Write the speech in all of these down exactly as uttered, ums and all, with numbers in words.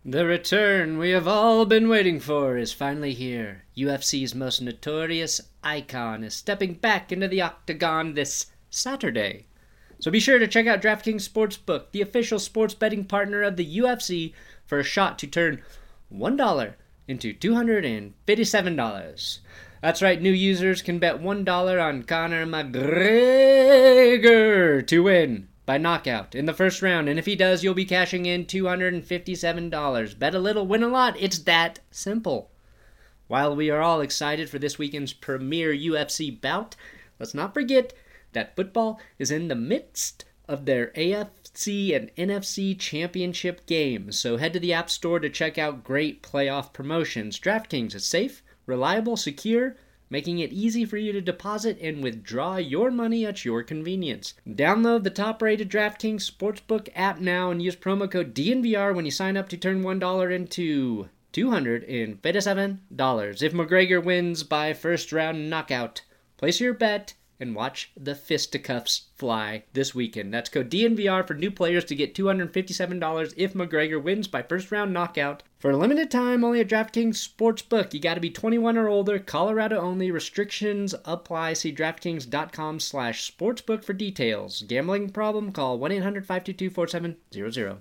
The return we have all been waiting for is finally here. U F C's most notorious icon is stepping back into the octagon this Saturday. So be sure to check out DraftKings Sportsbook, the official sports betting partner of the U F C, for a shot to turn one dollar into two hundred fifty-seven dollars. That's right, new users can bet one dollar on Conor McGregor to win by knockout in the first round, and if he does, you'll be cashing in two hundred fifty-seven dollars. Bet a little, win a lot. It's that simple. While we are all excited for this weekend's premier U F C bout, let's not forget that football is in the midst of their A F C and N F C championship games, so head to the App Store to check out great playoff promotions. DraftKings is safe, reliable, secure, making it easy for you to deposit and withdraw your money at your convenience. Download the top-rated DraftKings Sportsbook app now and use promo code D N V R when you sign up to turn one dollar into two hundred fifty-seven dollars. If McGregor wins by first-round knockout, place your bet and watch the fisticuffs fly this weekend. That's code D N V R for new players to get two hundred fifty-seven dollars if McGregor wins by first-round knockout. For a limited time, only at DraftKings Sportsbook. You got to be twenty-one or older, Colorado only. Restrictions apply. See DraftKings.com slash sportsbook for details. Gambling problem? Call one eight hundred five two two four seven zero zero.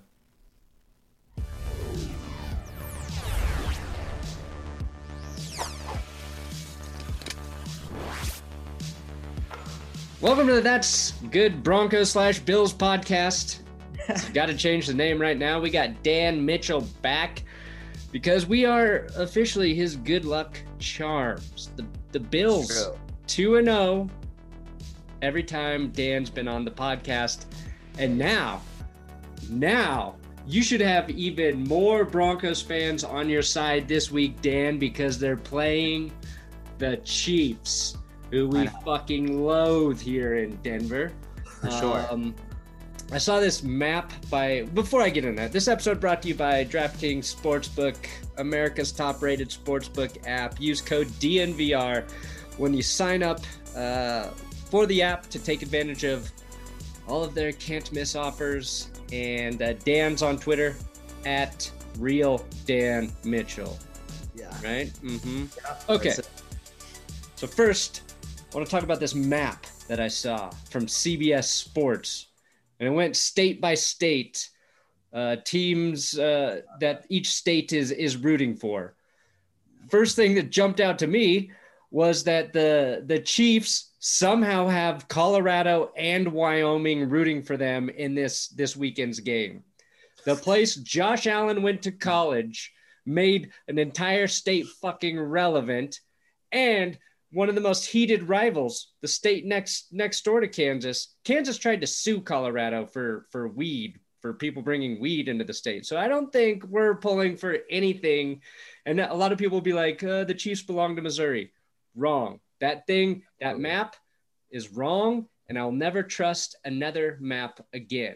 Welcome to the That's Good Broncos slash Bills podcast. Got to change the name right now. We got Dan Mitchell back because we are officially his good luck charms. The the Bills two and oh every time Dan's been on the podcast. And now, now you should have even more Broncos fans on your side this week, Dan, because they're playing the Chiefs, who we fucking loathe here in Denver. For sure. Um, I saw this map by, before I get into that, this episode brought to you by DraftKings Sportsbook, America's top-rated sportsbook app. Use code D N V R when you sign up uh, for the app to take advantage of all of their can't-miss offers. And uh, Dan's on Twitter, at Real Dan Mitchell. Yeah. Right? Mm-hmm. Yeah, okay. So first, I want to talk about this map that I saw from C B S Sports. And it went state by state, uh, teams uh, that each state is is rooting for. First thing that jumped out to me was that the the Chiefs somehow have Colorado and Wyoming rooting for them in this, this weekend's game. The place Josh Allen went to college made an entire state fucking relevant, and one of the most heated rivals, the state next next door to Kansas. Kansas tried to sue Colorado for, for weed, for people bringing weed into the state. So I don't think we're pulling for anything. And a lot of people will be like, uh, the Chiefs belong to Missouri. Wrong. That thing, that map is wrong, and I'll never trust another map again.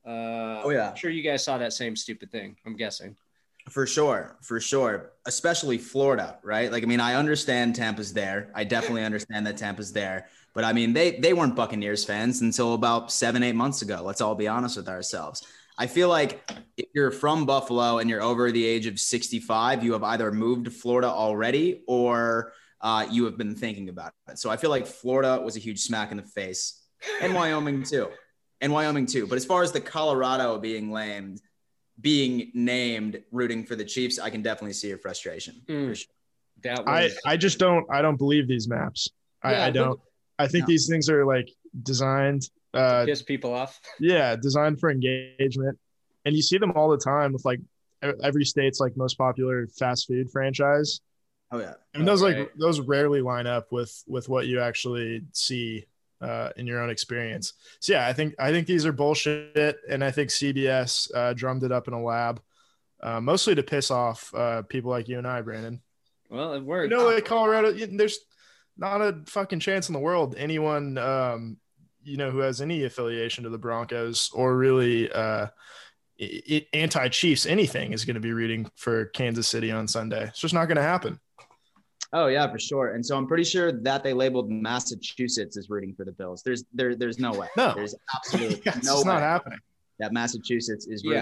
Uh, oh, yeah. I'm sure you guys saw that same stupid thing, I'm guessing. For sure, for sure. Especially Florida, right? Like, I mean, I understand Tampa's there. I definitely understand that Tampa's there. But, I mean, they they weren't Buccaneers fans until about seven, eight months ago. Let's all be honest with ourselves. I feel like if you're from Buffalo and you're over the age of sixty-five, you have either moved to Florida already or uh, you have been thinking about it. So I feel like Florida was a huge smack in the face. And Wyoming, too. And Wyoming, too. But as far as the Colorado being lamed, being named rooting for the Chiefs, I can definitely see your frustration. Mm. For sure. That was... I, I just don't I don't believe these maps. I, Yeah, I don't. I think No. these things are like designed. Uh, piss people off. yeah, designed for engagement, and you see them all the time with like every state's like most popular fast food franchise. Oh, yeah. And those Right. like those rarely line up with with what you actually see uh, in your own experience. So yeah, I think I think these are bullshit, and I think C B S uh, drummed it up in a lab, uh, mostly to piss off uh, people like you and I, Brandon. Well, it worked. You know, like Colorado, there's not a fucking chance in the world anyone, um, you know, who has any affiliation to the Broncos or really uh, it, anti-Chiefs anything is going to be rooting for Kansas City on Sunday. It's just not going to happen. Oh, yeah, for sure. And so I'm pretty sure that they labeled Massachusetts as rooting for the Bills. There's there, there's no way. No. There's absolutely It's no just way not happening. that Massachusetts is Yeah. rooting for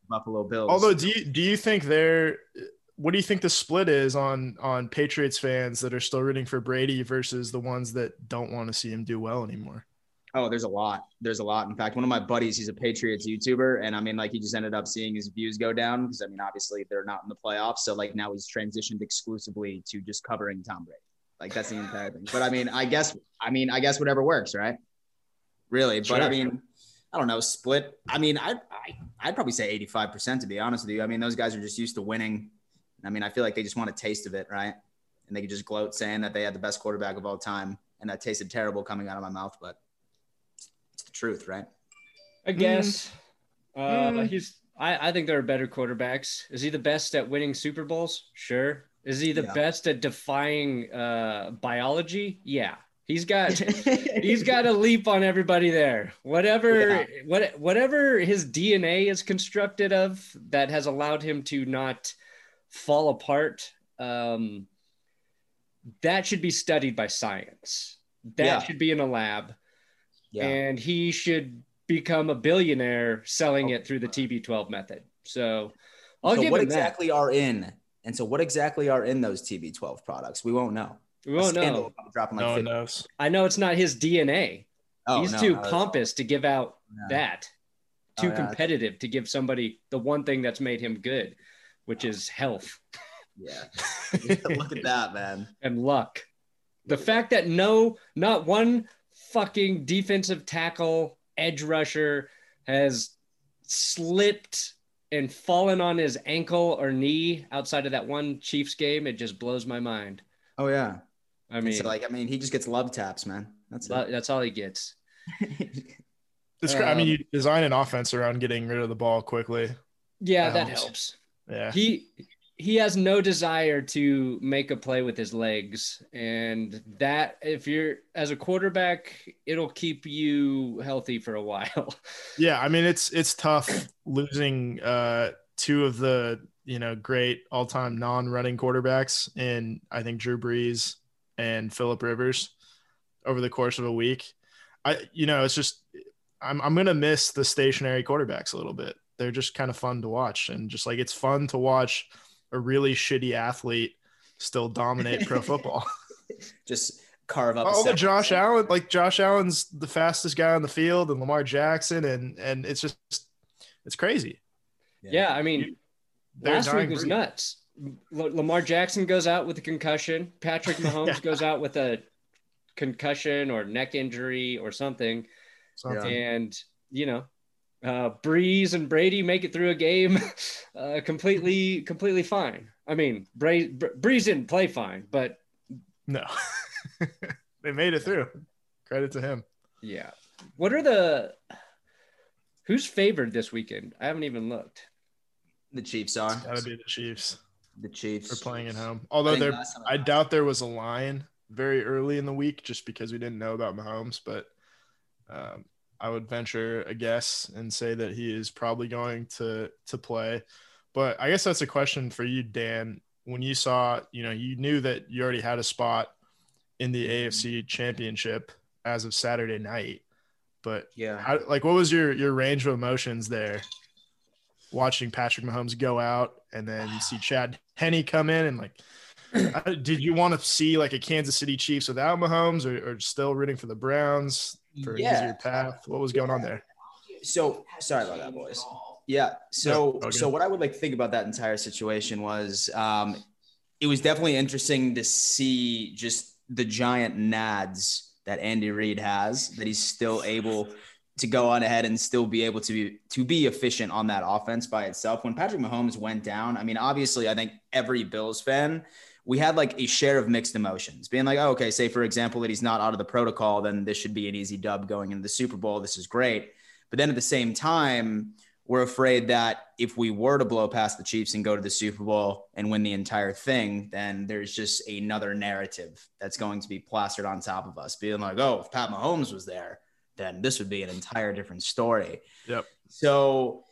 Buffalo Bills. Although, do you do you think they're what do you think the split is on on Patriots fans that are still rooting for Brady versus the ones that don't want to see him do well anymore? Oh, there's a lot. There's a lot. In fact, one of my buddies, he's a Patriots YouTuber, and I mean, like, he just ended up seeing his views go down because, I mean, obviously they're not in the playoffs. So, like, now he's transitioned exclusively to just covering Tom Brady. Like, that's the entire thing. But I mean, I guess, I mean, I guess whatever works, right? Really. But Sure. I mean, I don't know, split. I mean, I, I, I'd probably say eighty-five percent to be honest with you. I mean, those guys are just used to winning. I mean, I feel like they just want a taste of it, right? And they could just gloat saying that they had the best quarterback of all time, and that tasted terrible coming out of my mouth, but it's the truth, right? I guess. Uh, Mm. he's. I, I think there are better quarterbacks. Is he the best at winning Super Bowls? Sure. Is he the Yeah. best at defying uh, biology? Yeah. He's got he's got a leap on everybody there. Whatever Yeah. what whatever his D N A is constructed of that has allowed him to not fall apart. Um, that should be studied by science. That Yeah. should be in a lab. Yeah. And he should become a billionaire selling it through the T B twelve method. So I'll so give what him exactly are in, and so what exactly are in those T B twelve products? We won't know. that. We won't A scandal know. will drop in like No one fifty. knows. I know it's not his D N A. Oh, He's no, too no, that's- pompous to give out Yeah. that. Oh, Too yeah. competitive to give somebody the one thing that's made him good, which is health Yeah. Look at that, man. and luck. The fact that no, not one fucking defensive tackle, edge rusher has slipped and fallen on his ankle or knee outside of that one Chiefs game, it just blows my mind. Oh yeah. I mean, so like, I mean, he just gets love taps, man. That's lo- it. that's all he gets. It's cra- I mean, Um, you design an offense around getting rid of the ball quickly. Yeah, That that helps. helps. Yeah. He he has no desire to make a play with his legs, and that if you're as a quarterback, it'll keep you healthy for a while. Yeah, I mean it's it's tough losing uh two of the, you know, great all-time non-running quarterbacks in I think Drew Brees and Phillip Rivers over the course of a week. I you know, it's just I'm I'm going to miss the stationary quarterbacks a little bit. They're just kind of fun to watch, and just like it's fun to watch a really shitty athlete still dominate pro football. Just carve up. a Oh, the separate- Josh Allen, like Josh Allen's the fastest guy on the field, and Lamar Jackson, and and it's just it's crazy. Yeah, I mean, They're last week dying was breed. nuts. L- Lamar Jackson goes out with a concussion. Patrick Mahomes Yeah. goes out with a concussion or neck injury or something. Something. And, you know, uh, Breeze and Brady make it through a game uh, completely, completely fine. I mean, Bra- Br- Breeze didn't play fine, but No, they made it through. Credit to him. yeah. What are the who's favored this weekend? I haven't even looked. The Chiefs are. Got to be the Chiefs The Chiefs for playing at home. I Although think there, last time I doubt there was a line very early in the week just because we didn't know about Mahomes. But um, I would venture a guess and say that he is probably going to to play. But I guess that's a question for you, Dan. When you saw, you know, you knew that you already had a spot in the A F C Championship as of Saturday night. But Yeah. how, like, what was your your range of emotions there? Watching Patrick Mahomes go out, and then you see Chad Henne come in, and like, uh, did you want to see like a Kansas City Chiefs without Mahomes, or, or still rooting for the Browns for an Yeah. easier path? What was going on there? So sorry about that, boys. Yeah. So No, okay. so what I would like to think about that entire situation was um, it was definitely interesting to see just the giant nads that Andy Reid has, that he's still able to go on ahead and still be able to be to be efficient on that offense by itself. When Patrick Mahomes went down, I mean, obviously, I think every Bills fan, we had like a share of mixed emotions, being like, oh, okay, say for example that he's not out of the protocol, then this should be an easy dub going into the Super Bowl. This is great. But then at the same time, we're afraid that if we were to blow past the Chiefs and go to the Super Bowl and win the entire thing, then there's just another narrative that's going to be plastered on top of us, being like, oh, if Pat Mahomes was there, then this would be an entire different story. Yep. So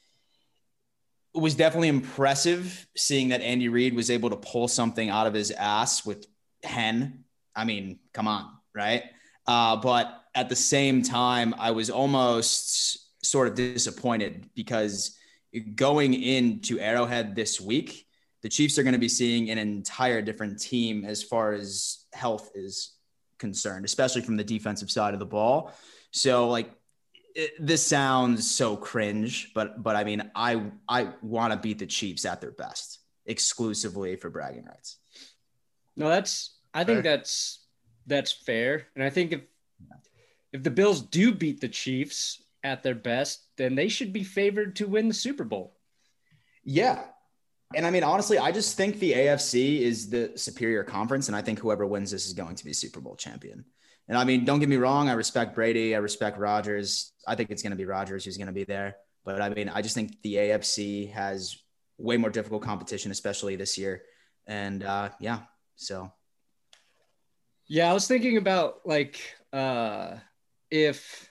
it was definitely impressive seeing that Andy Reid was able to pull something out of his ass with Hen. I mean, come on, right? Uh, but at the same time, I was almost sort of disappointed because going into Arrowhead this week, the Chiefs are going to be seeing an entire different team as far as health is concerned, especially from the defensive side of the ball. So like it, this sounds so cringe, but but I mean, I I want to beat the Chiefs at their best exclusively for bragging rights. No, that's I think fair. that's that's fair. And I think if if the Bills do beat the Chiefs at their best, then they should be favored to win the Super Bowl. Yeah. And I mean, honestly, I just think the A F C is the superior conference. And I think whoever wins this is going to be Super Bowl champion. And I mean, don't get me wrong. I respect Brady. I respect Rodgers. I think it's going to be Rodgers who's going to be there. But I mean, I just think the A F C has way more difficult competition, especially this year. And uh, yeah, so. Yeah, I was thinking about like uh, if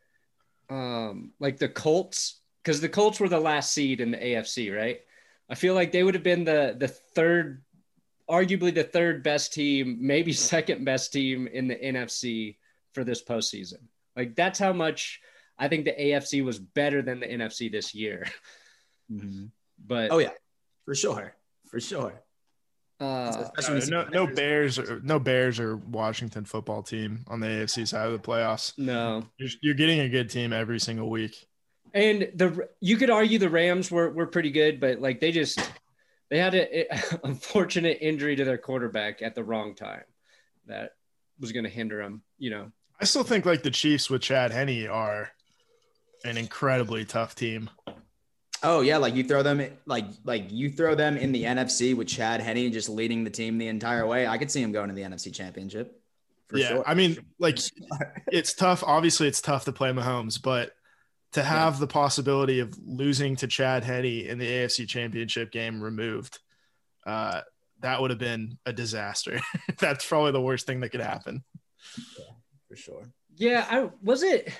um, like the Colts, because the Colts were the last seed in the A F C, right? I feel like they would have been the the third, arguably the third best team, maybe second best team in the N F C for this postseason. Like that's how much I think the A F C was better than the N F C this year. Mm-hmm. But oh yeah, for sure, for sure. Uh, no, no, no Bears, or, no Bears or Washington football team on the A F C side of the playoffs. No, you're, you're getting a good team every single week. And the you could argue the Rams were were pretty good, but like they just they had an unfortunate injury to their quarterback at the wrong time that was going to hinder them. You know, I still think like the Chiefs with Chad Henne are an incredibly tough team. Oh yeah, like you throw them like like you throw them in the N F C with Chad Henne just leading the team the entire way. I could see him going to the N F C Championship. For yeah, sure. I mean, like it's tough. Obviously, it's tough to play Mahomes, but to have yeah. the possibility of losing to Chad Henne in the A F C Championship game removed, uh, that would have been a disaster. That's probably the worst thing that could happen. Yeah, for sure. Yeah, I was it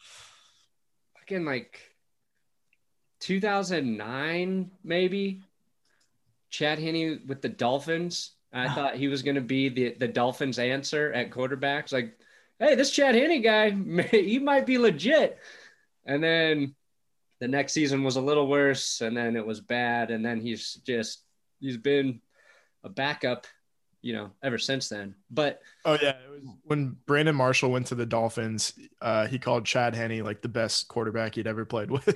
again like two thousand nine maybe. Chad Henne with the Dolphins. I thought he was going to be the the Dolphins' answer at quarterbacks. Like, hey, this Chad Henne guy, he might be legit. And then the next season was a little worse, and then it was bad, and then he's just he's been a backup, you know, ever since then. But oh yeah, it was when Brandon Marshall went to the Dolphins, uh, he called Chad Henne like the best quarterback he'd ever played with.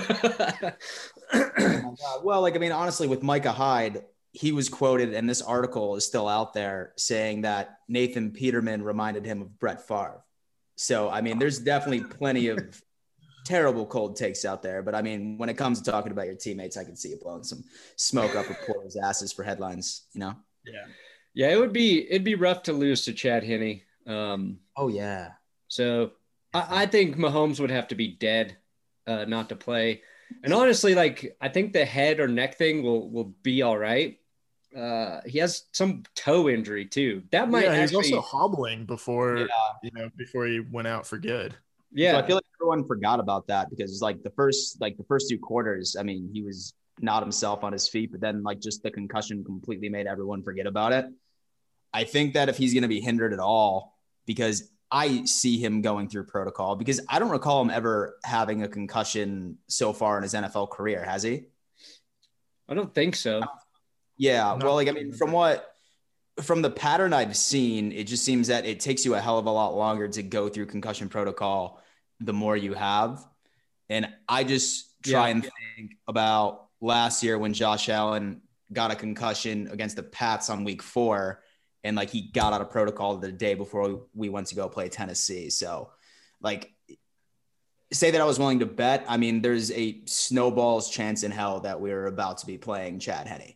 Oh my God. Well, like I mean, honestly, with Micah Hyde, he was quoted, and this article is still out there saying that Nathan Peterman reminded him of Brett Favre. So I mean, there's definitely plenty of terrible cold takes out there, but I mean, when it comes to talking about your teammates, I can see you blowing some smoke up reporters' asses for headlines, you know? Yeah. Yeah, it would be it'd be rough to lose to Chad Henne. Um, oh yeah. So I, I think Mahomes would have to be dead, uh, not to play. And honestly, like I think the head or neck thing will will be all right. Uh, he has some toe injury too. That might. Yeah, actually, he's also hobbling before yeah. you know before he went out for good. Yeah, so I feel like everyone forgot about that because like the first like the first two quarters, I mean, he was not himself on his feet, but then like just the concussion completely made everyone forget about it. I think that if he's going to be hindered at all, because I see him going through protocol, because I don't recall him ever having a concussion so far in his N F L career, has he? I don't think so. Yeah, well, like I mean, from what from the pattern I've seen, it just seems that it takes you a hell of a lot longer to go through concussion protocol the more you have. And I just try yeah. and think about last year when Josh Allen got a concussion against the Pats on week four, and like he got out of protocol the day before we went to go play Tennessee. So like say that I was willing to bet, I mean, there's a snowball's chance in hell that we're about to be playing Chad Henne.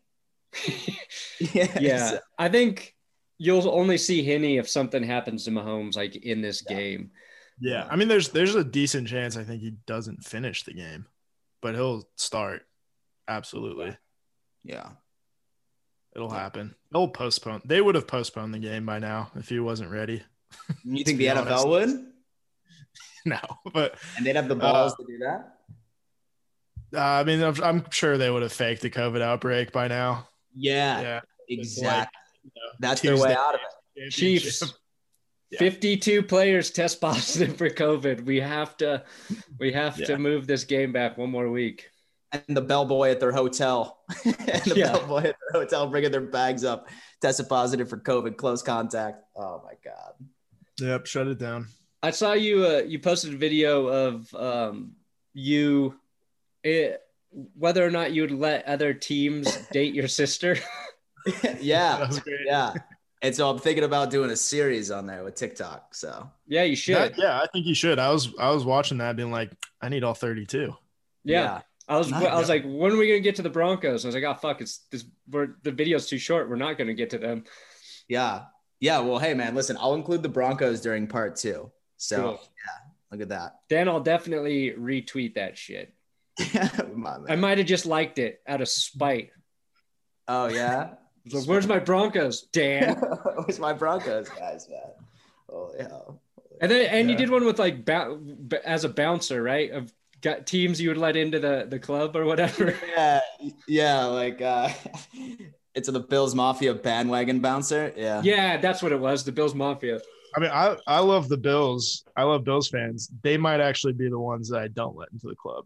yes. Yeah, I think you'll only see Henne if something happens to Mahomes like in this yeah. game. Yeah, I mean, there's there's a decent chance I think he doesn't finish the game, but he'll start. Absolutely. Yeah, it'll happen. They'll postpone. They would have postponed the game by now if he wasn't ready. You think the N F L would? No, but and they'd have the balls uh, to do that. Uh, I mean, I'm, I'm sure they would have faked the COVID outbreak by now. Yeah, yeah, exactly. Like, you know, that's their way out of it. Chiefs, yeah. fifty-two players test positive for COVID. We have to, we have yeah. to move this game back one more week. and the bellboy at their hotel, and the Yeah. bellboy at their hotel bringing their bags up, tested positive for COVID, close contact. Oh my God. Yep, shut it down. I saw you. Uh, you posted a video of um, you, it, whether or not you would let other teams date your sister. Yeah, That was great. yeah. And so I'm thinking about doing a series on there with TikTok. So Yeah, you should. That- yeah, I think you should. I was I was watching that, being like, I need all thirty-two. yeah. I was. Nice. I was like, when are we gonna get to the Broncos? I was like, oh fuck, it's this. We're the video's too short. We're not gonna get to them. yeah, yeah. Well, hey man, listen, I'll include the Broncos during part two. So Cool. yeah, look at that. Dan, I'll definitely retweet that shit. My I man. might have just liked it out of spite. Oh yeah. I was like, where's my Broncos, Dan? Where's my Broncos guys, man? Holy hell. And then, and you Yeah. did one with like bou- as a bouncer, right? Of got teams you would let into the the club or whatever. Yeah, yeah, like uh it's the Bills Mafia bandwagon bouncer. Yeah. Yeah, that's what it was. The Bills Mafia. I mean, I, I love the Bills. I love Bills fans. They might actually be the ones that I don't let into the club.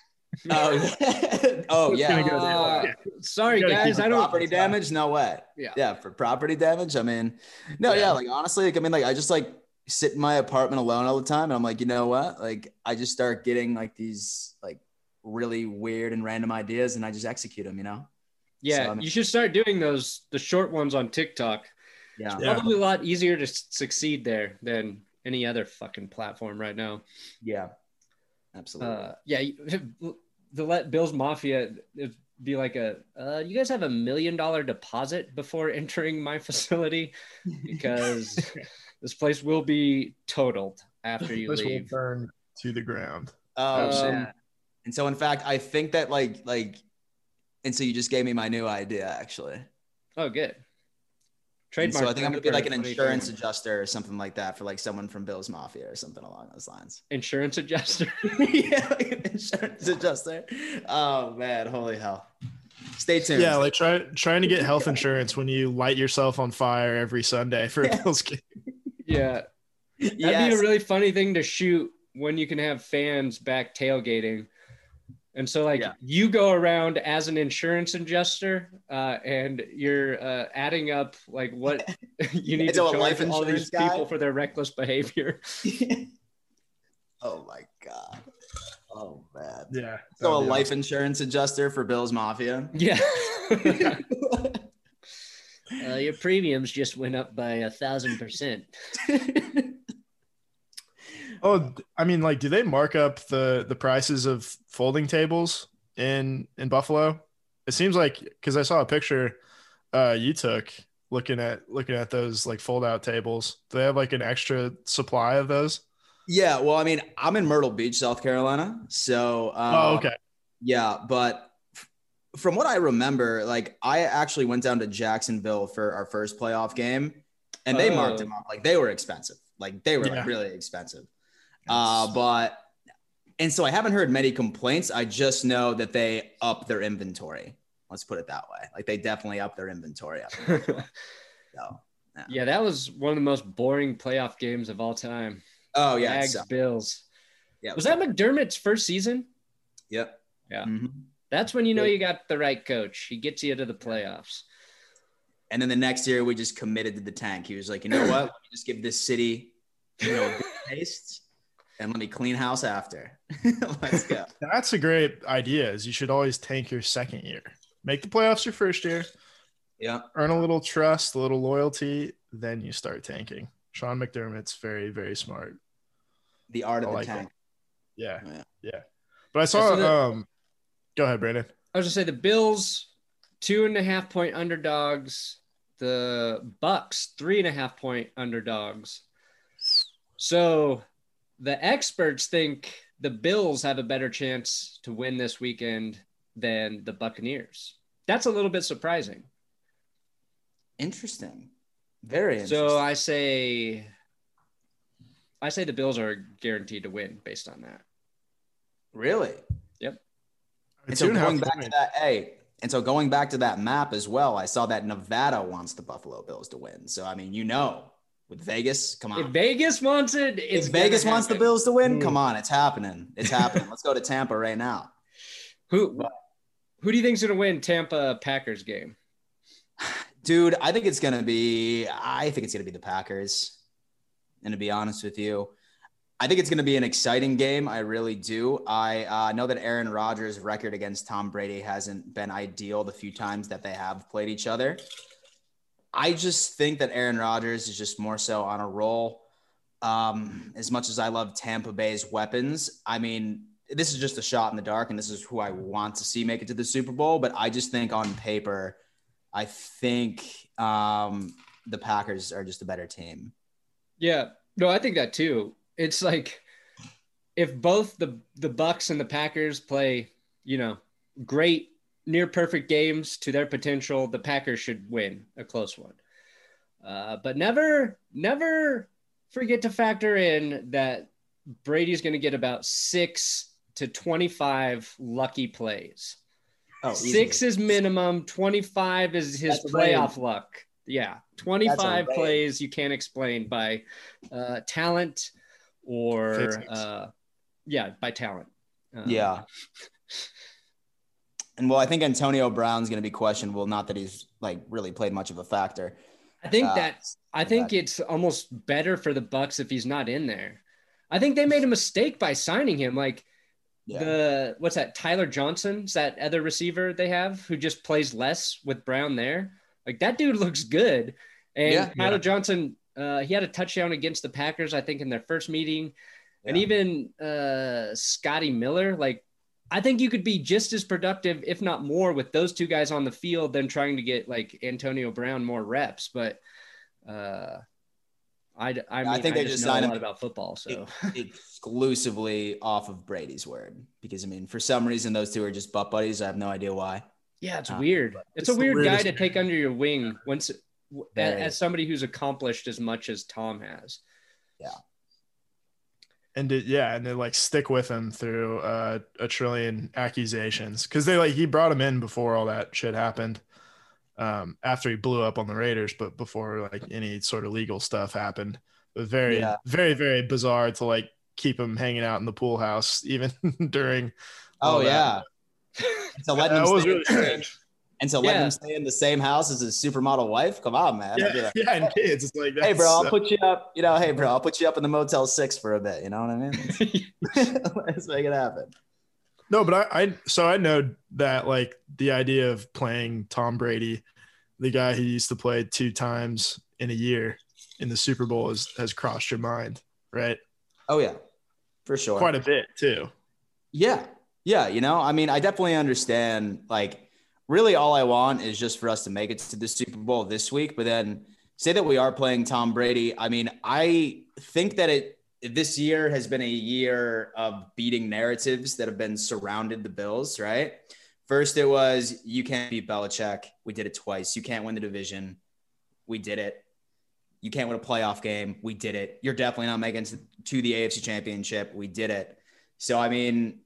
Oh, oh It's yeah. gonna go Uh, there. sorry, You gotta guys. keep I don't. Property damage? No way. Yeah. Yeah, for property damage. I mean, no, yeah. Yeah. like honestly, like I mean, like I just like sit in my apartment alone all the time, and I'm like, you know what? Like I just start getting like these like really weird and random ideas, and I just execute them. You know? Yeah, So, I mean- you should start doing those the short ones on TikTok. Yeah. Yeah. Probably a lot easier to s- succeed there than any other fucking platform right now. Yeah. Absolutely. Uh, yeah, you- the let Bills Mafia it'd be like a. Uh, you guys have a million dollar deposit before entering my facility because this place will be totaled after you This will leave. burn to the ground. oh um, man. And so, in fact, I think that like like, and so you just gave me my new idea actually. Oh, good. And Trademark. so I think I'm gonna be like an twenty insurance twenty. adjuster or something like that for like someone from Bills Mafia or something along those lines. Insurance adjuster. Yeah, like an insurance adjuster. Oh man, holy hell! Stay tuned. Yeah, like try, trying to get health insurance when you light yourself on fire every Sunday for a Yeah. Bills game. Yeah. That'd yes. be a really funny thing to shoot when you can have fans back tailgating. And so, like, Yeah. you go around as an insurance adjuster, uh, and you're uh, adding up like what you need It's to a life charge all these insurance guy? people for their reckless behavior. Oh my god. Oh man. Yeah. So a that'd be life awesome. insurance adjuster for Bills Mafia. Yeah. uh, your premiums just went up by a thousand percent. Oh, I mean, like, do they mark up the the prices of folding tables in in Buffalo? It seems like, because I saw a picture uh you took looking at looking at those like fold out tables. Do they have like an extra supply of those? Yeah. Well, I mean, I'm in Myrtle Beach, South Carolina. So. Um, Oh, okay. Yeah, but f- from what I remember, like I actually went down to Jacksonville for our first playoff game, and they marked Oh. them up like they were expensive, like they were Yeah. like really expensive. Uh, but and so I haven't heard many complaints. I just know that they up their inventory. Let's put it that way. Like they definitely up their inventory. Up there. So, Yeah, that was one of the most boring playoff games of all time. oh yeah, Jags so, Bills. yeah. Was that McDermott's first season? Yep. Yeah. Mhm. That's when you know you got the right coach. He gets you to the playoffs. And then the next year, we just committed to the tank. He was like, you know what? Let me just give this city, you know, a good taste, and let me clean house after. Let's go. That's a great idea. Is you should always tank your second year. Make the playoffs your first year. Yeah. Earn a little trust, a little loyalty, then you start tanking. Sean McDermott's very, very smart. The art of I the like tank. Yeah. Yeah. Yeah. But I saw so the- um go ahead, Brandon. I was gonna say the Bills, two and a half point underdogs. The Bucks, three and a half point underdogs. So the experts think the Bills have a better chance to win this weekend than the Buccaneers. That's a little bit surprising. Interesting. Very interesting. So I say, I say the Bills are guaranteed to win based on that. really? And so Two and a half going back to point. that, hey, and so going back to that map as well, I saw that Nevada wants the Buffalo Bills to win. So I mean, you know, with Vegas, come on. If Vegas wants it, it's If Vegas gonna wants the happen. Bills to win, Mm. come on, it's happening. It's happening. Let's go to Tampa right now. Who Who do you think's going to win Tampa Packers game? Dude, I think it's going to be, I think it's going to be the Packers. And to be honest with you, I think it's going to be an exciting game. I really do. I uh, know that Aaron Rodgers' record against Tom Brady hasn't been ideal the few times that they have played each other. I just think that Aaron Rodgers is just more so on a roll. Um, as much as I love Tampa Bay's weapons, I mean, this is just a shot in the dark, and this is who I want to see make it to the Super Bowl. But I just think on paper, I think um, the Packers are just a better team. Yeah, no, I think that too. It's like if both the the Bucs and the Packers play, you know, great, near perfect games to their potential, the Packers should win a close one. Uh, but never, never forget to factor in that Brady's going to get about six to twenty-five lucky plays. Oh, six is minimum. twenty-five is his That's playoff luck. Yeah, twenty-five plays you can't explain by uh, talent or uh, yeah, by talent. Um, yeah. And well, I think Antonio Brown's going to be questionable. Not that he's like really played much of a factor. I think uh, that I think that. It's almost better for the Bucs if he's not in there. I think they made a mistake by signing him. Like yeah. the what's that? Tyler Johnson's that other receiver they have who just plays less with Brown there. Like that dude looks good. And yeah, Tyler yeah. Johnson, uh, he had a touchdown against the Packers, I think, in their first meeting. Yeah. And even uh, Scotty Miller, like, I think you could be just as productive, if not more, with those two guys on the field than trying to get like Antonio Brown more reps. But uh, I, I, mean, I think I they just, just know signed a lot him about football. So exclusively off of Brady's word, because I mean, for some reason, those two are just butt buddies. I have no idea why. Yeah, it's uh, weird. It's, it's a weird guy to take under your wing once, Very. as somebody who's accomplished as much as Tom has. Yeah. And to, yeah, and they like stick with him through uh, a trillion accusations because they like he brought him in before all that shit happened, um, after he blew up on the Raiders, but before like any sort of legal stuff happened. It was very, yeah. very, very bizarre to like keep him hanging out in the pool house even during. Oh yeah, and to let that him was stay, really strange. And to let yeah. him stay in the same house as his supermodel wife. Come on, man. Yeah, like, yeah, and kids. It's like, hey, bro, I'll put you up. You know, hey, bro, I'll put you up in the Motel Six for a bit. You know what I mean? Let's make it happen. No, but I, I, so I know that like the idea of playing Tom Brady, the guy who used to play two times in a year in the Super Bowl, is, has crossed your mind, right? Oh yeah, for sure. Quite a bit too. Yeah, yeah. You know, I mean, I definitely understand. Like, really, all I want is just for us to make it to the Super Bowl this week. But then say that we are playing Tom Brady. I mean, I think that it this year has been a year of beating narratives that have been surrounded the Bills, right? First, it was you can't beat Belichick. We did it twice. You can't win the division. We did it. You can't win a playoff game. We did it. You're definitely not making it to the A F C Championship. We did it. So, I mean,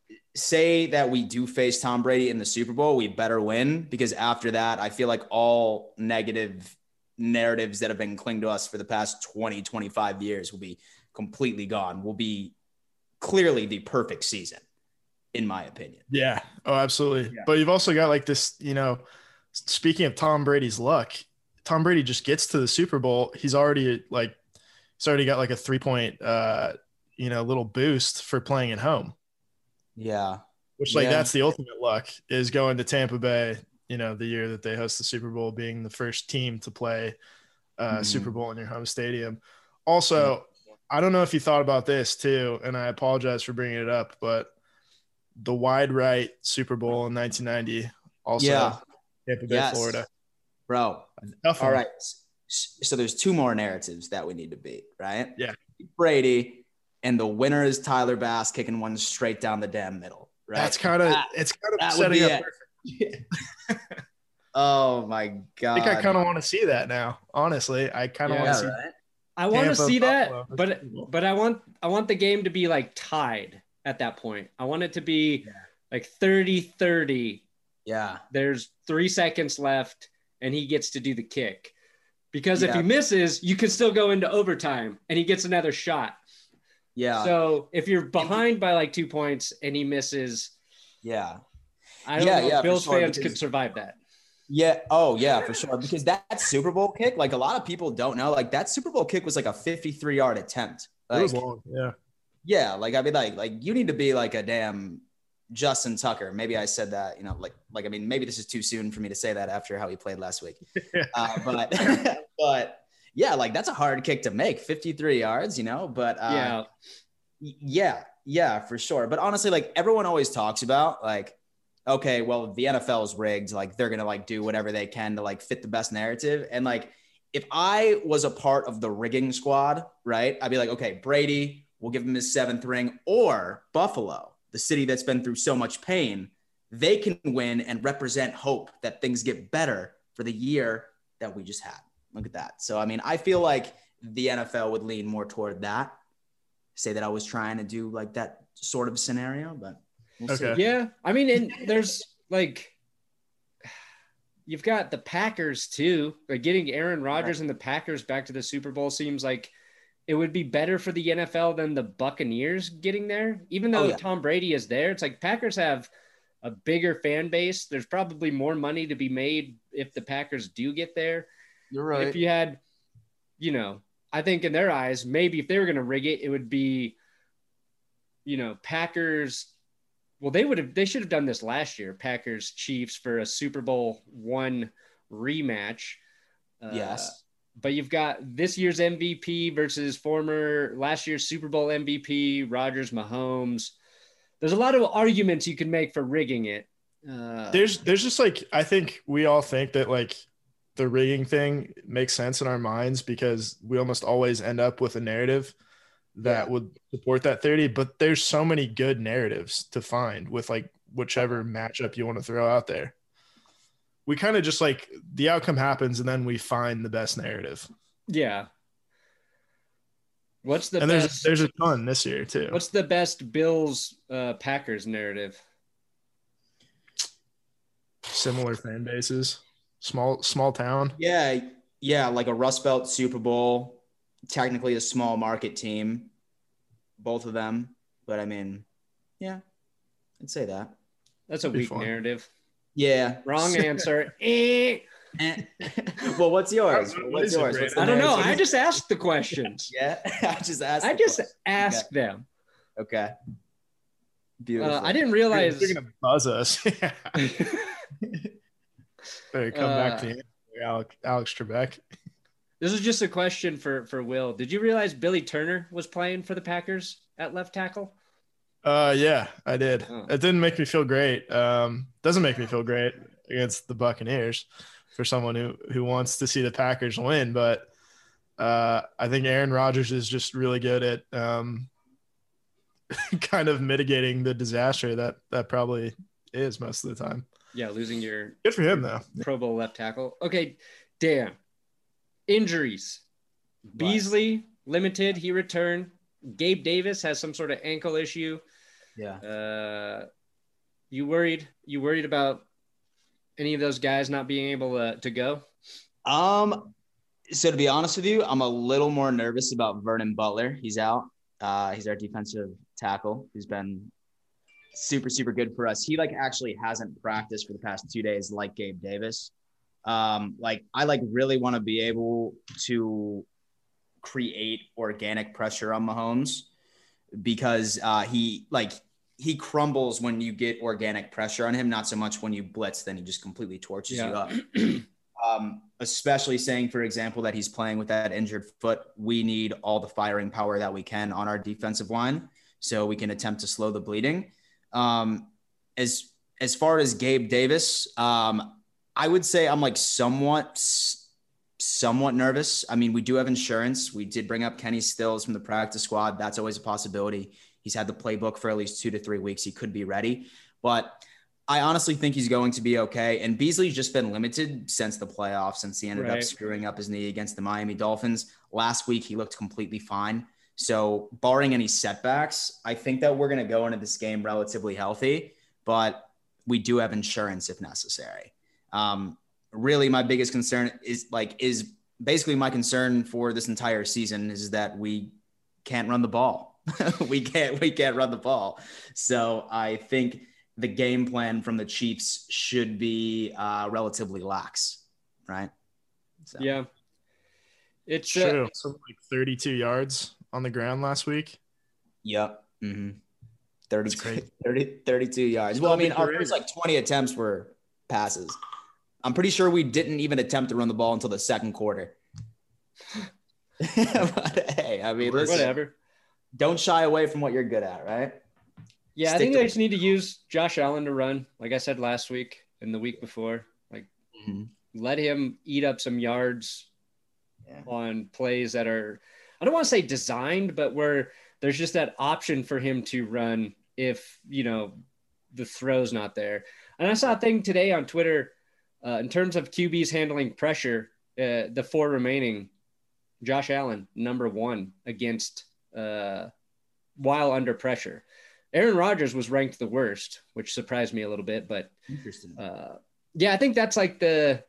say that we do face Tom Brady in the Super Bowl, we better win, because after that, I feel like all negative narratives that have been clinging to us for the past twenty, twenty-five years will be completely gone. Will be clearly the perfect season, in my opinion. Yeah. Oh, absolutely. Yeah. But you've also got like this, you know, speaking of Tom Brady's luck, Tom Brady just gets to the Super Bowl. He's already like, he's already got like a three point, uh, you know, little boost for playing at home. Yeah. Which like, yeah. that's the ultimate luck, is going to Tampa Bay, you know, the year that they host the Super Bowl, being the first team to play uh mm-hmm. Super Bowl in your home stadium. Also, mm-hmm. I don't know if you thought about this too, and I apologize for bringing it up, but the wide right Super Bowl in nineteen ninety, also yeah. Tampa Bay, yes. Florida. Bro. Tough all right. So there's two more narratives that we need to beat, right? Yeah. Brady, and the winner is Tyler Bass kicking one straight down the damn middle, right? That's kind of, it's kind of setting up perfect. Oh my God. I think I kind of want to see that now. Honestly, I kind of yeah, want to see right? I want to see that, but but I want I want the game to be like tied at that point. I want it to be yeah. like thirty thirty. Yeah. There's three seconds left and he gets to do the kick. Because yeah. if he misses, you can still go into overtime and he gets another shot. Yeah. So if you're behind by like two points and he misses. Yeah. I don't Yeah, know yeah, if for Bills sure, fans because- could survive that. Yeah. Oh, yeah, for sure. Because that Super Bowl kick, like a lot of people don't know, like that Super Bowl kick was like a fifty-three yard attempt. Like, It was long. Yeah. yeah, like I mean, like, like you need to be like a damn Justin Tucker. Maybe I said that, you know, like, like I mean, maybe this is too soon for me to say that after how he played last week. Uh, but, but yeah, like that's a hard kick to make, fifty-three yards, you know. But uh, Yeah. yeah, yeah, for sure. But honestly, like everyone always talks about, like, okay, well, the N F L is rigged. Like they're gonna like do whatever they can to like fit the best narrative. And like, if I was a part of the rigging squad, right, I'd be like, okay, Brady, we'll give him his seventh ring, or Buffalo, the city that's been through so much pain, they can win and represent hope that things get better for the year that we just had. Look at that. So, I mean, I feel like the N F L would lean more toward that. Say that I was trying to do like that sort of scenario, but we'll Okay. see. Yeah. I mean, and there's like, you've got the Packers too. Like getting Aaron Rodgers and the Packers back to the Super Bowl seems like it would be better for the N F L than the Buccaneers getting there. Even though Oh, yeah. Tom Brady is there, it's like Packers have a bigger fan base. There's probably more money to be made if the Packers do get there. You're If you had, you know, I think in their eyes, maybe if they were going to rig it, it would be, you know, Packers. Well, they would have, they should have done this last year, Packers Chiefs for a Super Bowl one rematch. Uh, Yes. But you've got this year's M V P versus former last year's Super Bowl M V P, Rodgers, Mahomes. There's a lot of arguments you can make for rigging it. Uh, There's there's just like, I think we all think that like the rigging thing makes sense in our minds because we almost always end up with a narrative that Yeah. would support that theory. But there's so many good narratives to find with like whichever matchup you want to throw out there. We kind of just like the outcome happens and then we find the best narrative. yeah. What's the And there's best? there's a ton this year too. What's the best Bills uh, Packers narrative? Similar fan bases, small small town. Yeah. Yeah. Like a Rust Belt Super Bowl, technically a small market team, both of them. But I mean, yeah, I'd say that. That's a Be weak fun. narrative. Yeah. Wrong answer. Eh. Eh. Well, what's yours? What What's is it, yours? Brandon? What's the I don't know. narrative? I just asked the questions. Yeah. I just asked. I the just question. asked them. Okay. Beautiful. Uh, I didn't realize. They're gonna buzz us. Yeah. Better come back Uh, to you, Alex, Alex Trebek. This is just a question for for Will. Did you realize Billy Turner was playing for the Packers at left tackle? Uh, yeah, I did. Oh. It didn't make me feel great. Um, doesn't make me feel great against the Buccaneers for someone who who wants to see the Packers win. But uh, I think Aaron Rodgers is just really good at um, kind of mitigating the disaster that that probably is most of the time. Yeah, losing your Good for him though. Pro Bowl left tackle. Okay, Dan. Injuries. Beasley limited. He returned. Gabe Davis has some sort of ankle issue. Yeah. Uh, you worried? You worried about any of those guys not being able to, to go? Um, so to be honest with you, I'm a little more nervous about Vernon Butler. He's out. Uh, he's our defensive tackle who's been super, super good for us. He like actually hasn't practiced for the past two days like Gabe Davis. Um, like I like really want to be able to create organic pressure on Mahomes because uh, he like he crumbles when you get organic pressure on him, not so much when you blitz, then he just completely torches Yeah. you up. Um, especially saying, for example, that he's playing with that injured foot. We need all the firing power that we can on our defensive line so we can attempt to slow the bleeding. Um, as as far as Gabe Davis, um, I would say I'm like somewhat somewhat nervous. I mean, we do have insurance. We did bring up Kenny Stills from the practice squad. That's always a possibility. He's had the playbook for at least two to three weeks. He could be ready, but I honestly think he's going to be okay. And Beasley's just been limited since the playoffs, since he ended Right. up screwing up his knee against the Miami Dolphins. Last week, he looked completely fine. So barring any setbacks, I think that we're going to go into this game relatively healthy, but we do have insurance if necessary. Um, really, my biggest concern is like, is basically my concern for this entire season is that we can't run the ball. we can't, we can't run the ball. So I think the game plan from the Chiefs should be uh, relatively lax, right? So. Yeah. It's true. Uh, so like thirty-two yards on the ground last week. Yep. Mm-hmm. thirty, thirty, thirty-two yards. Well, I mean, our first like twenty attempts were passes. I'm pretty sure we didn't even attempt to run the ball until the second quarter. But hey, I mean, listen, whatever. Don't shy away from what you're good at, right? Yeah, Stick I think they just need to use Josh Allen to run, like I said last week and the week before. Like, mm-hmm. let him eat up some yards yeah. on plays that are, I don't want to say designed, but where there's just that option for him to run if, you know, the throw's not there. And I saw a thing today on Twitter uh, in terms of Q Bs handling pressure, uh, the four remaining, Josh Allen, number one against uh, while under pressure. Aaron Rodgers was ranked the worst, which surprised me a little bit, but interesting. Uh, yeah, I think that's like the,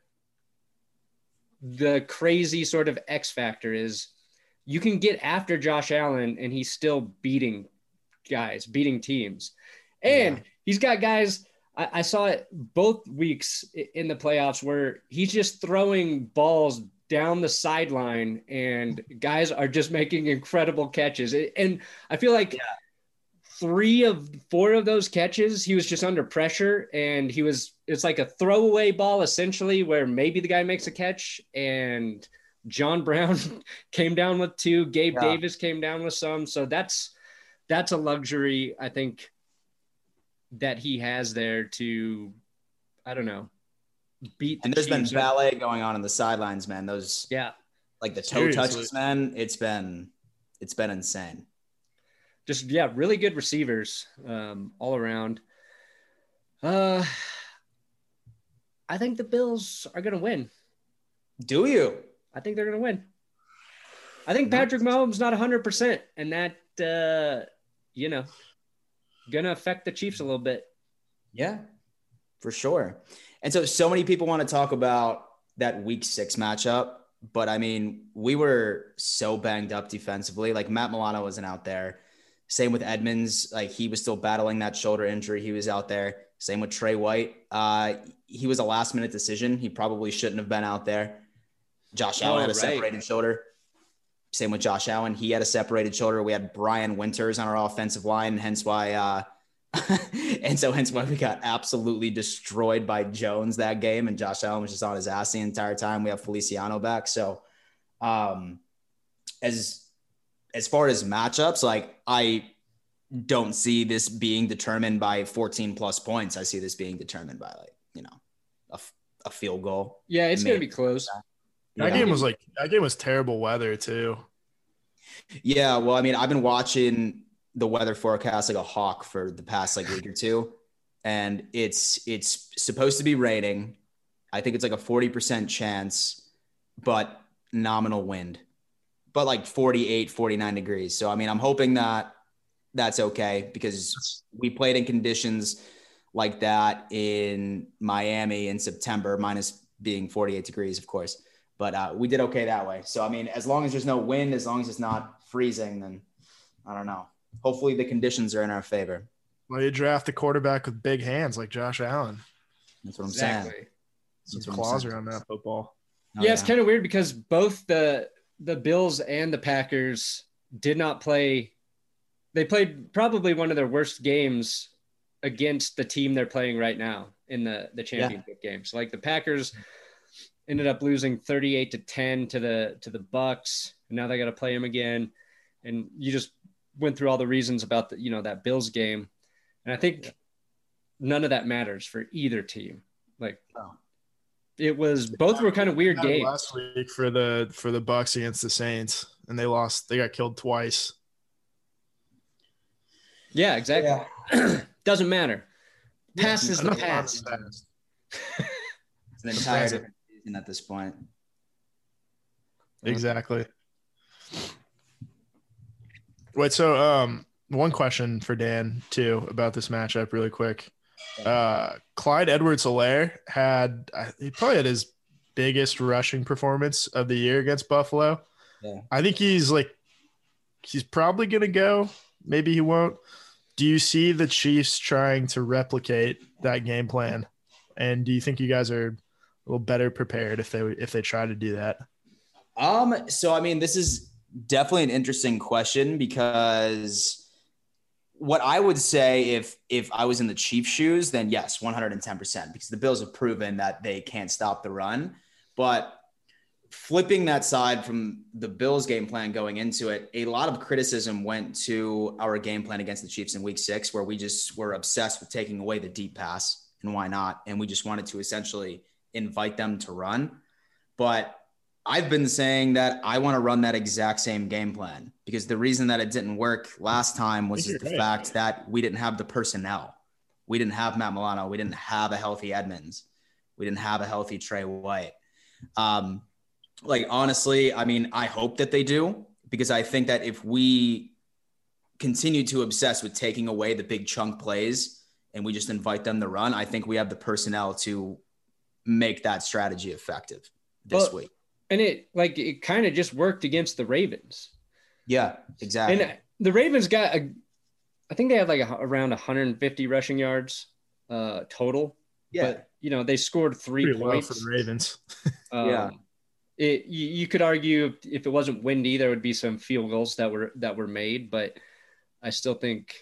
the crazy sort of X factor is you can get after Josh Allen and he's still beating guys, beating teams. And yeah. he's got guys, I, I saw it both weeks in the playoffs where he's just throwing balls down the sideline and guys are just making incredible catches. And I feel like yeah. three of four of those catches, he was just under pressure and he was, it's like a throwaway ball essentially where maybe the guy makes a catch and John Brown came down with two, Gabe yeah. Davis came down with some. So that's, that's a luxury I think that he has there to, I don't know, beat. The and there's Chiefs. been ballet going on in the sidelines, man. Those, yeah, like the toe Seriously. touches, man. It's been, it's been insane. Just, yeah, really good receivers um, all around. Uh, I think the Bills are going to win. Do you? I think they're going to win. I think Patrick Mahomes not one hundred percent, and that, uh, you know, going to affect the Chiefs a little bit. Yeah, for sure. And so, so many people want to talk about that week six matchup, but I mean, we were so banged up defensively. Like Matt Milano wasn't out there. Same with Edmonds. Like he was still battling that shoulder injury. He was out there. Same with Trey White. Uh, he was a last minute decision. He probably shouldn't have been out there. Josh Allen oh, had a right. separated shoulder. Same with Josh Allen. He had a separated shoulder. We had Brian Winters on our offensive line, hence why, uh, and so hence why we got absolutely destroyed by Jones that game. And Josh Allen was just on his ass the entire time. We have Feliciano back. So, um, as as far as matchups, like I don't see this being determined by fourteen plus points. I see this being determined by like you know a, a field goal. Yeah, it's gonna be close. That yeah. game was like that game was terrible weather too. Yeah, well, I mean, I've been watching the weather forecast like a hawk for the past like week or two, and it's it's supposed to be raining. I think it's like a forty percent chance, but nominal wind, but like forty-eight, forty-nine degrees. So I mean, I'm hoping that that's okay because we played in conditions like that in Miami in September, minus being forty-eight degrees, of course. But uh, we did okay that way. So, I mean, as long as there's no wind, as long as it's not freezing, then I don't know. Hopefully the conditions are in our favor. Well, you draft a quarterback with big hands like Josh Allen. That's what I'm exactly. saying. Some claws around that football. Oh, yeah, yeah, it's kind of weird because both the the Bills and the Packers did not play. They played probably one of their worst games against the team they're playing right now in the, the championship yeah. game. So, like the Packers – ended up losing thirty-eight to ten to the to the Bucks, and now they got to play them again. And you just went through all the reasons about the you know that Bills game, and I think yeah. none of that matters for either team. Like oh. it was both were kind of weird games. Last week for the for the Bucks against the Saints, and they lost. They got killed twice. Yeah, exactly. Yeah. Doesn't matter. Past yeah, is the past. It's an entire different season at this point. Exactly. Wait, so um, one question for Dan too about this matchup, really quick. Uh, Clyde Edwards-Helaire had he probably had his biggest rushing performance of the year against Buffalo. Yeah. I think he's like he's probably gonna go. Maybe he won't. do you see the Chiefs trying to replicate that game plan? And do you think you guys are a little better prepared if they if they try to do that? Um, so I mean, this is definitely an interesting question because what I would say if if I was in the Chiefs' shoes, then yes, one hundred ten percent, because the Bills have proven that they can't stop the run. But flipping that side from the Bills game plan going into it, a lot of criticism went to our game plan against the Chiefs in week six, where we just were obsessed with taking away the deep pass, and why not? And we just wanted to essentially invite them to run. But I've been saying that I want to run that exact same game plan, because the reason that it didn't work last time was just the fact that we didn't have the personnel. We didn't have Matt Milano. We didn't have a healthy Edmonds. We didn't have a healthy Trey White. Um, Like, honestly, I mean, I hope that they do, because I think that if we continue to obsess with taking away the big chunk plays and we just invite them to run, I think we have the personnel to make that strategy effective this well, week. And it like it kind of just worked against the Ravens. Yeah, exactly. And the Ravens got, a, I think they had like a, around one hundred fifty rushing yards uh, total. Yeah. But, you know, they scored three Pretty points. low for the Ravens. um, yeah. It, you, you could argue if, if it wasn't windy, there would be some field goals that were that were made, but I still think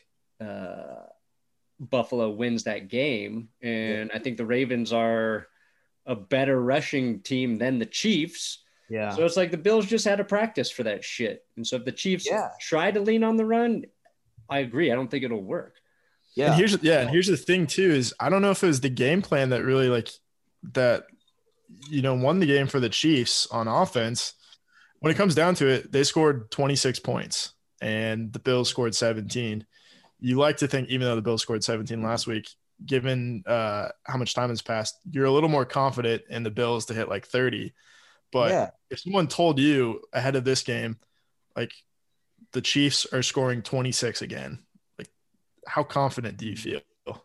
uh, Buffalo wins that game, and yeah. I think the Ravens are a better rushing team than the Chiefs. Yeah. So it's like the Bills just had to practice for that shit, and so if the Chiefs yeah. try to lean on the run, I agree. I don't think it'll work. Yeah. And here's yeah, and here's the thing too is I don't know if it was the game plan that really like that. you know, won the game for the Chiefs on offense. When it comes down to it, they scored twenty-six points and the Bills scored seventeen. You like to think, even though the Bills scored seventeen last week, given uh, how much time has passed, you're a little more confident in the Bills to hit like thirty. But yeah. if someone told you ahead of this game, like the Chiefs are scoring twenty-six again, like how confident do you feel?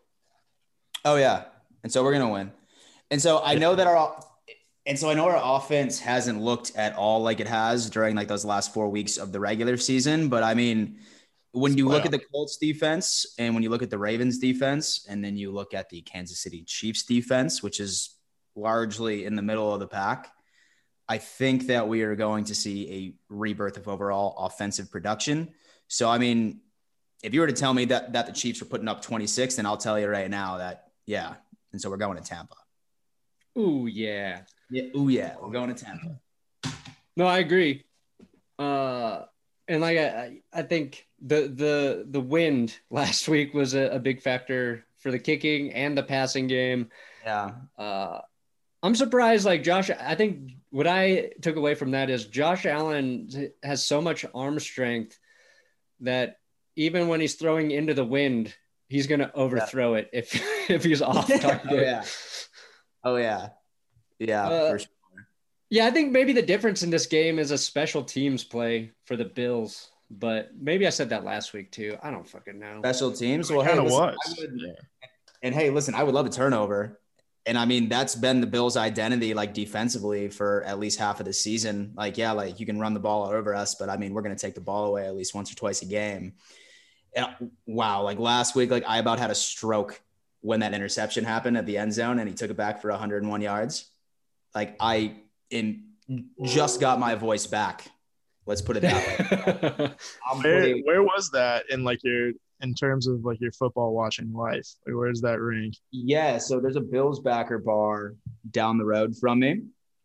Oh yeah. And so we're going to win. And so I know that our And so I know our offense hasn't looked at all like it has during like those last four weeks of the regular season. But I mean, when you look at the Colts defense and when you look at the Ravens defense, and then you look at the Kansas City Chiefs defense, which is largely in the middle of the pack, I think that we are going to see a rebirth of overall offensive production. So, I mean, if you were to tell me that, that the Chiefs were putting up twenty-six, then I'll tell you right now that, yeah. And so we're going to Tampa. Ooh, yeah. Yeah. Ooh, yeah. We're going to Tampa. No, I agree. Uh, and like I, I think the the the wind last week was a, a big factor for the kicking and the passing game. Yeah. Uh, I'm surprised. Like Josh, I think what I took away from that is Josh Allen has so much arm strength that even when he's throwing into the wind, he's going to overthrow yeah. it if if he's off target. oh yeah. Oh yeah. Yeah, uh, for sure. Yeah, I think maybe the difference in this game is a special teams play for the Bills, but maybe I said that last week too. I don't fucking know. Special teams? Well, hey, listen, I would, and hey, listen, I would love a turnover. And I mean, that's been the Bills' identity, like defensively for at least half of the season. Like, yeah, like you can run the ball over us, but I mean, we're going to take the ball away at least once or twice a game. And, wow. Like last week, like I about had a stroke when that interception happened at the end zone and he took it back for one hundred one yards. Like I in just got my voice back. Let's put it that way. where, pretty- where was that in like your in terms of like your football watching life? Like where's that rank? Yeah, so there's a Bills backer bar down the road from me.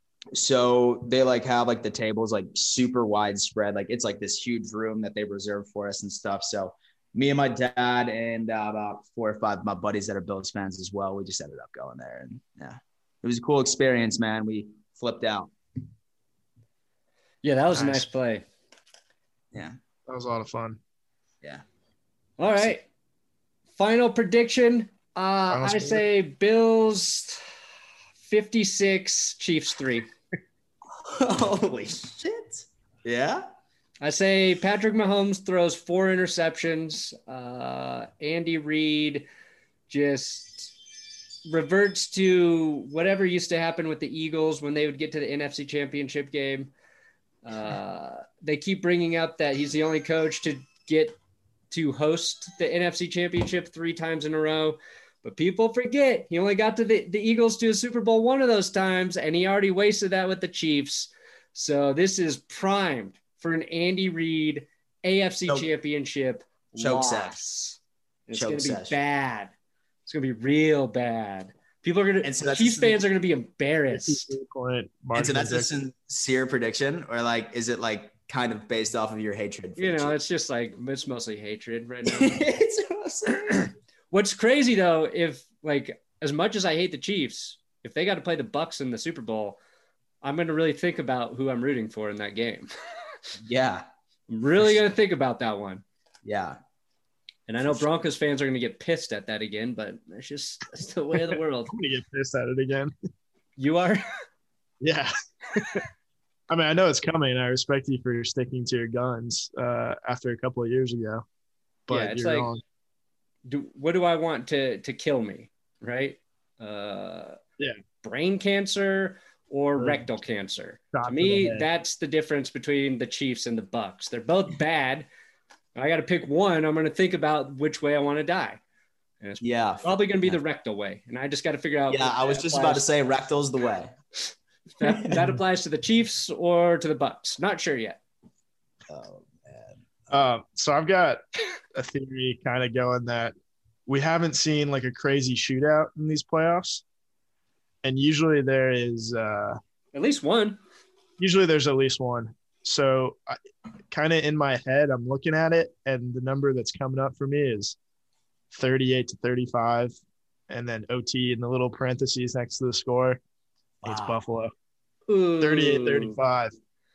So they like have like the tables like super widespread. Like it's like this huge room that they reserved for us and stuff. So me and my dad and uh, about four or five of my buddies that are Bills fans as well, we just ended up going there. And yeah, it was a cool experience, man. We flipped out. Yeah, that was nice. a nice play. Yeah. That was a lot of fun. Yeah. All right. Final prediction. Uh, Final I say Bills fifty-six, Chiefs three. Holy shit. Yeah? I say Patrick Mahomes throws four interceptions. Uh, Andy Reid just reverts to whatever used to happen with the Eagles when they would get to the N F C Championship game. Uh, they keep bringing up that he's the only coach to get to host the N F C Championship three times in a row. But people forget he only got to the, the Eagles to a Super Bowl one of those times, and he already wasted that with the Chiefs. So this is primed for an Andy Reid A F C Choke. Championship Choke loss. It's Choke going to be sesh. bad. It's going to be real bad. People are going to, so Chiefs fans are going to be embarrassed. And so that's a sincere prediction, or like, is it like kind of based off of your hatred? For you know, it's just like, it's mostly hatred right now. It's mostly... What's crazy though, if like, as much as I hate the Chiefs, if they got to play the Bucs in the Super Bowl, I'm going to really think about who I'm rooting for in that game. Yeah. I'm really going to think about that one. Yeah. And I know Broncos fans are going to get pissed at that again, but it's just it's the way of the world. I'm going to get pissed at it again. You are? Yeah. I mean, I know it's coming. I respect you for sticking to your guns uh, after a couple of years ago. But yeah, it's you're like, wrong. Do, what do I want to, to kill me, right? Uh, yeah. Brain cancer or or rectal cancer. Shot To to me, the head. that's the difference between the Chiefs and the Bucks. They're both bad. I got to pick one. I'm going to think about which way I want to die. And it's Yeah. probably going to be the rectal way. And I just got to figure out. Yeah, which I was that just applies- about to say rectal's the way. that, that applies to the Chiefs or to the Bucks. Not sure yet. Oh man. Um, so I've got a theory kind of going that we haven't seen like a crazy shootout in these playoffs. And usually there is uh, At least one. usually there's at least one. So I, kind of in my head, I'm looking at it, and the number that's coming up for me is thirty-eight to thirty-five, and then O T in the little parentheses next to the score. It's Wow. Buffalo. Ooh. thirty-eight thirty-five.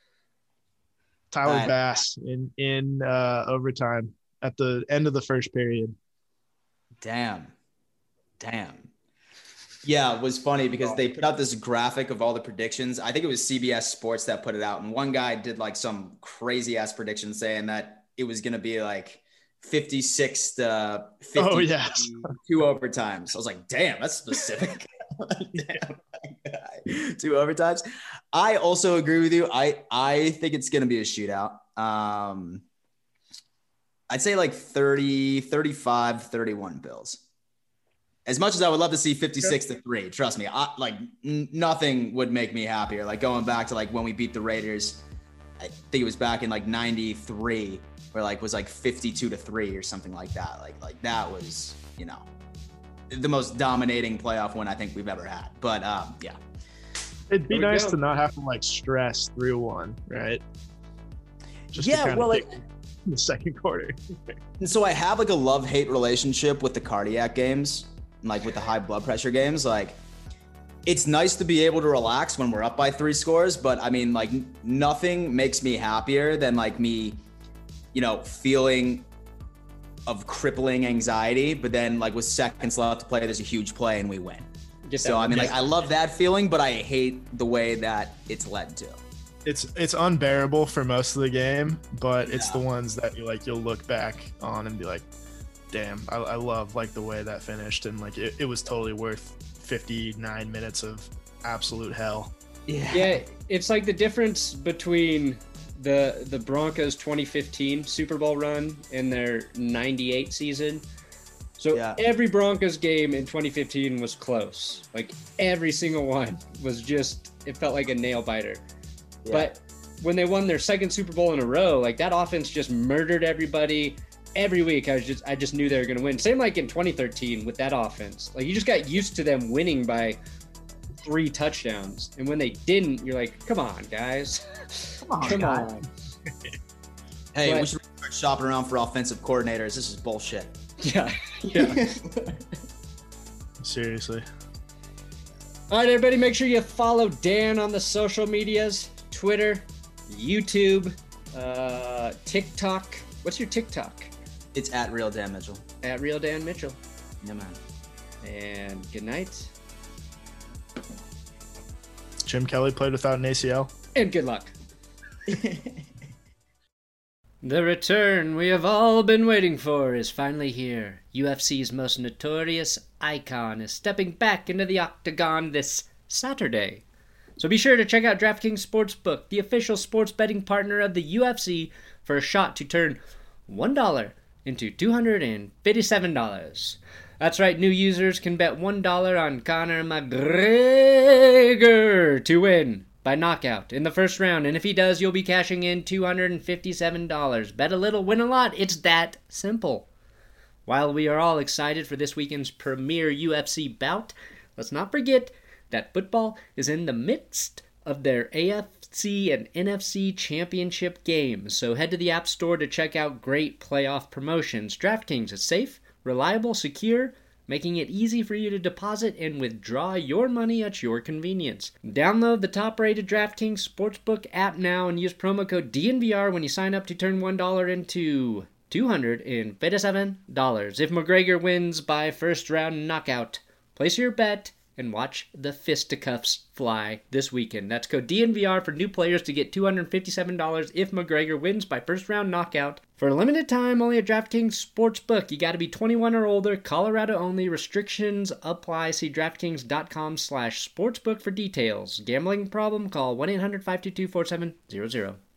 Tyler That- Bass in in uh, overtime at the end of the first period. Damn. Damn. Yeah, it was funny because they put out this graphic of all the predictions. I think it was C B S Sports that put it out. And one guy did like some crazy ass prediction saying that it was going to be like fifty-six to fifty Oh, yes. two overtimes. I was like, damn, that's specific. Damn. Two overtimes. I also agree with you. I, I think it's going to be a shootout. Um, I'd say like thirty, thirty-five, thirty-one Bills. As much as I would love to see fifty-six to three, trust me, I, like n- nothing would make me happier. Like going back to like when we beat the Raiders, I think it was back in like ninety-three, where like was like fifty-two to three or something like that. Like like that was, you know, the most dominating playoff win I think we've ever had. But um, yeah, It'd be There we nice go. to not have to like stress through one, right? Just Yeah, to kinda well, like- pick in the second quarter. and so I have like a love-hate relationship with the cardiac games, and like with the high blood pressure games. Like it's nice to be able to relax when we're up by three scores, but I mean, like n- nothing makes me happier than like me, you know, feeling of crippling anxiety, but then like with seconds left to play, there's a huge play and we win. Get that So I one. mean, like I love that feeling, but I hate the way that it's led to. It's it's unbearable for most of the game, but it's Yeah. the ones that you like you'll look back on and be like, damn, I, I love like the way that finished, and like it, it was totally worth fifty-nine minutes of absolute hell. Yeah, it's like the difference between the the Broncos twenty fifteen Super Bowl run and their ninety-eight season. So Yeah. every Broncos game in twenty fifteen was close. Like every single one was just, it felt like a nail biter. Yeah. But when they won their second Super Bowl in a row, like that offense just murdered everybody. Every week, I was just I just knew they were going to win. Same like in twenty thirteen with that offense. Like you just got used to them winning by three touchdowns, and when they didn't, you're like, "Come on, guys, Come on, come guys. on." Hey, But- we should start shopping around for offensive coordinators. This is bullshit. Yeah, yeah. Seriously. All right, everybody, make sure you follow Dan on the social medias: Twitter, YouTube, uh, TikTok. What's your TikTok? It's at Real Dan Mitchell. At Real Dan Mitchell. Yeah, man. And good night, Jim Kelly played without an A C L. and good luck. The return we have all been waiting for is finally here. U F C's most notorious icon is stepping back into the octagon this Saturday. So be sure to check out DraftKings Sportsbook, the official sports betting partner of the U F C, for a shot to turn one dollar into two hundred fifty-seven dollars. That's right, new users can bet one dollar on Conor McGregor to win by knockout in the first round, and if he does, you'll be cashing in two hundred fifty-seven dollars. Bet a little, win a lot. It's that simple. While we are all excited for this weekend's premier U F C bout, let's not forget that football is in the midst of their A F C and N F C championship games, so head to the App Store to check out great playoff promotions. DraftKings is safe, reliable, secure, making it easy for you to deposit and withdraw your money at your convenience. Download the top-rated DraftKings Sportsbook app now and use promo code D N V R when you sign up to turn one dollar into two hundred fifty-seven dollars. If McGregor wins by first-round knockout, place your bet and watch the fisticuffs fly this weekend. That's code D N V R for new players to get two hundred fifty-seven dollars if McGregor wins by first-round knockout. For a limited time, only at DraftKings Sportsbook. You got to be twenty-one or older, Colorado only. Restrictions apply. See DraftKings.com slash sportsbook for details. Gambling problem? Call one eight hundred five two two four seven zero zero.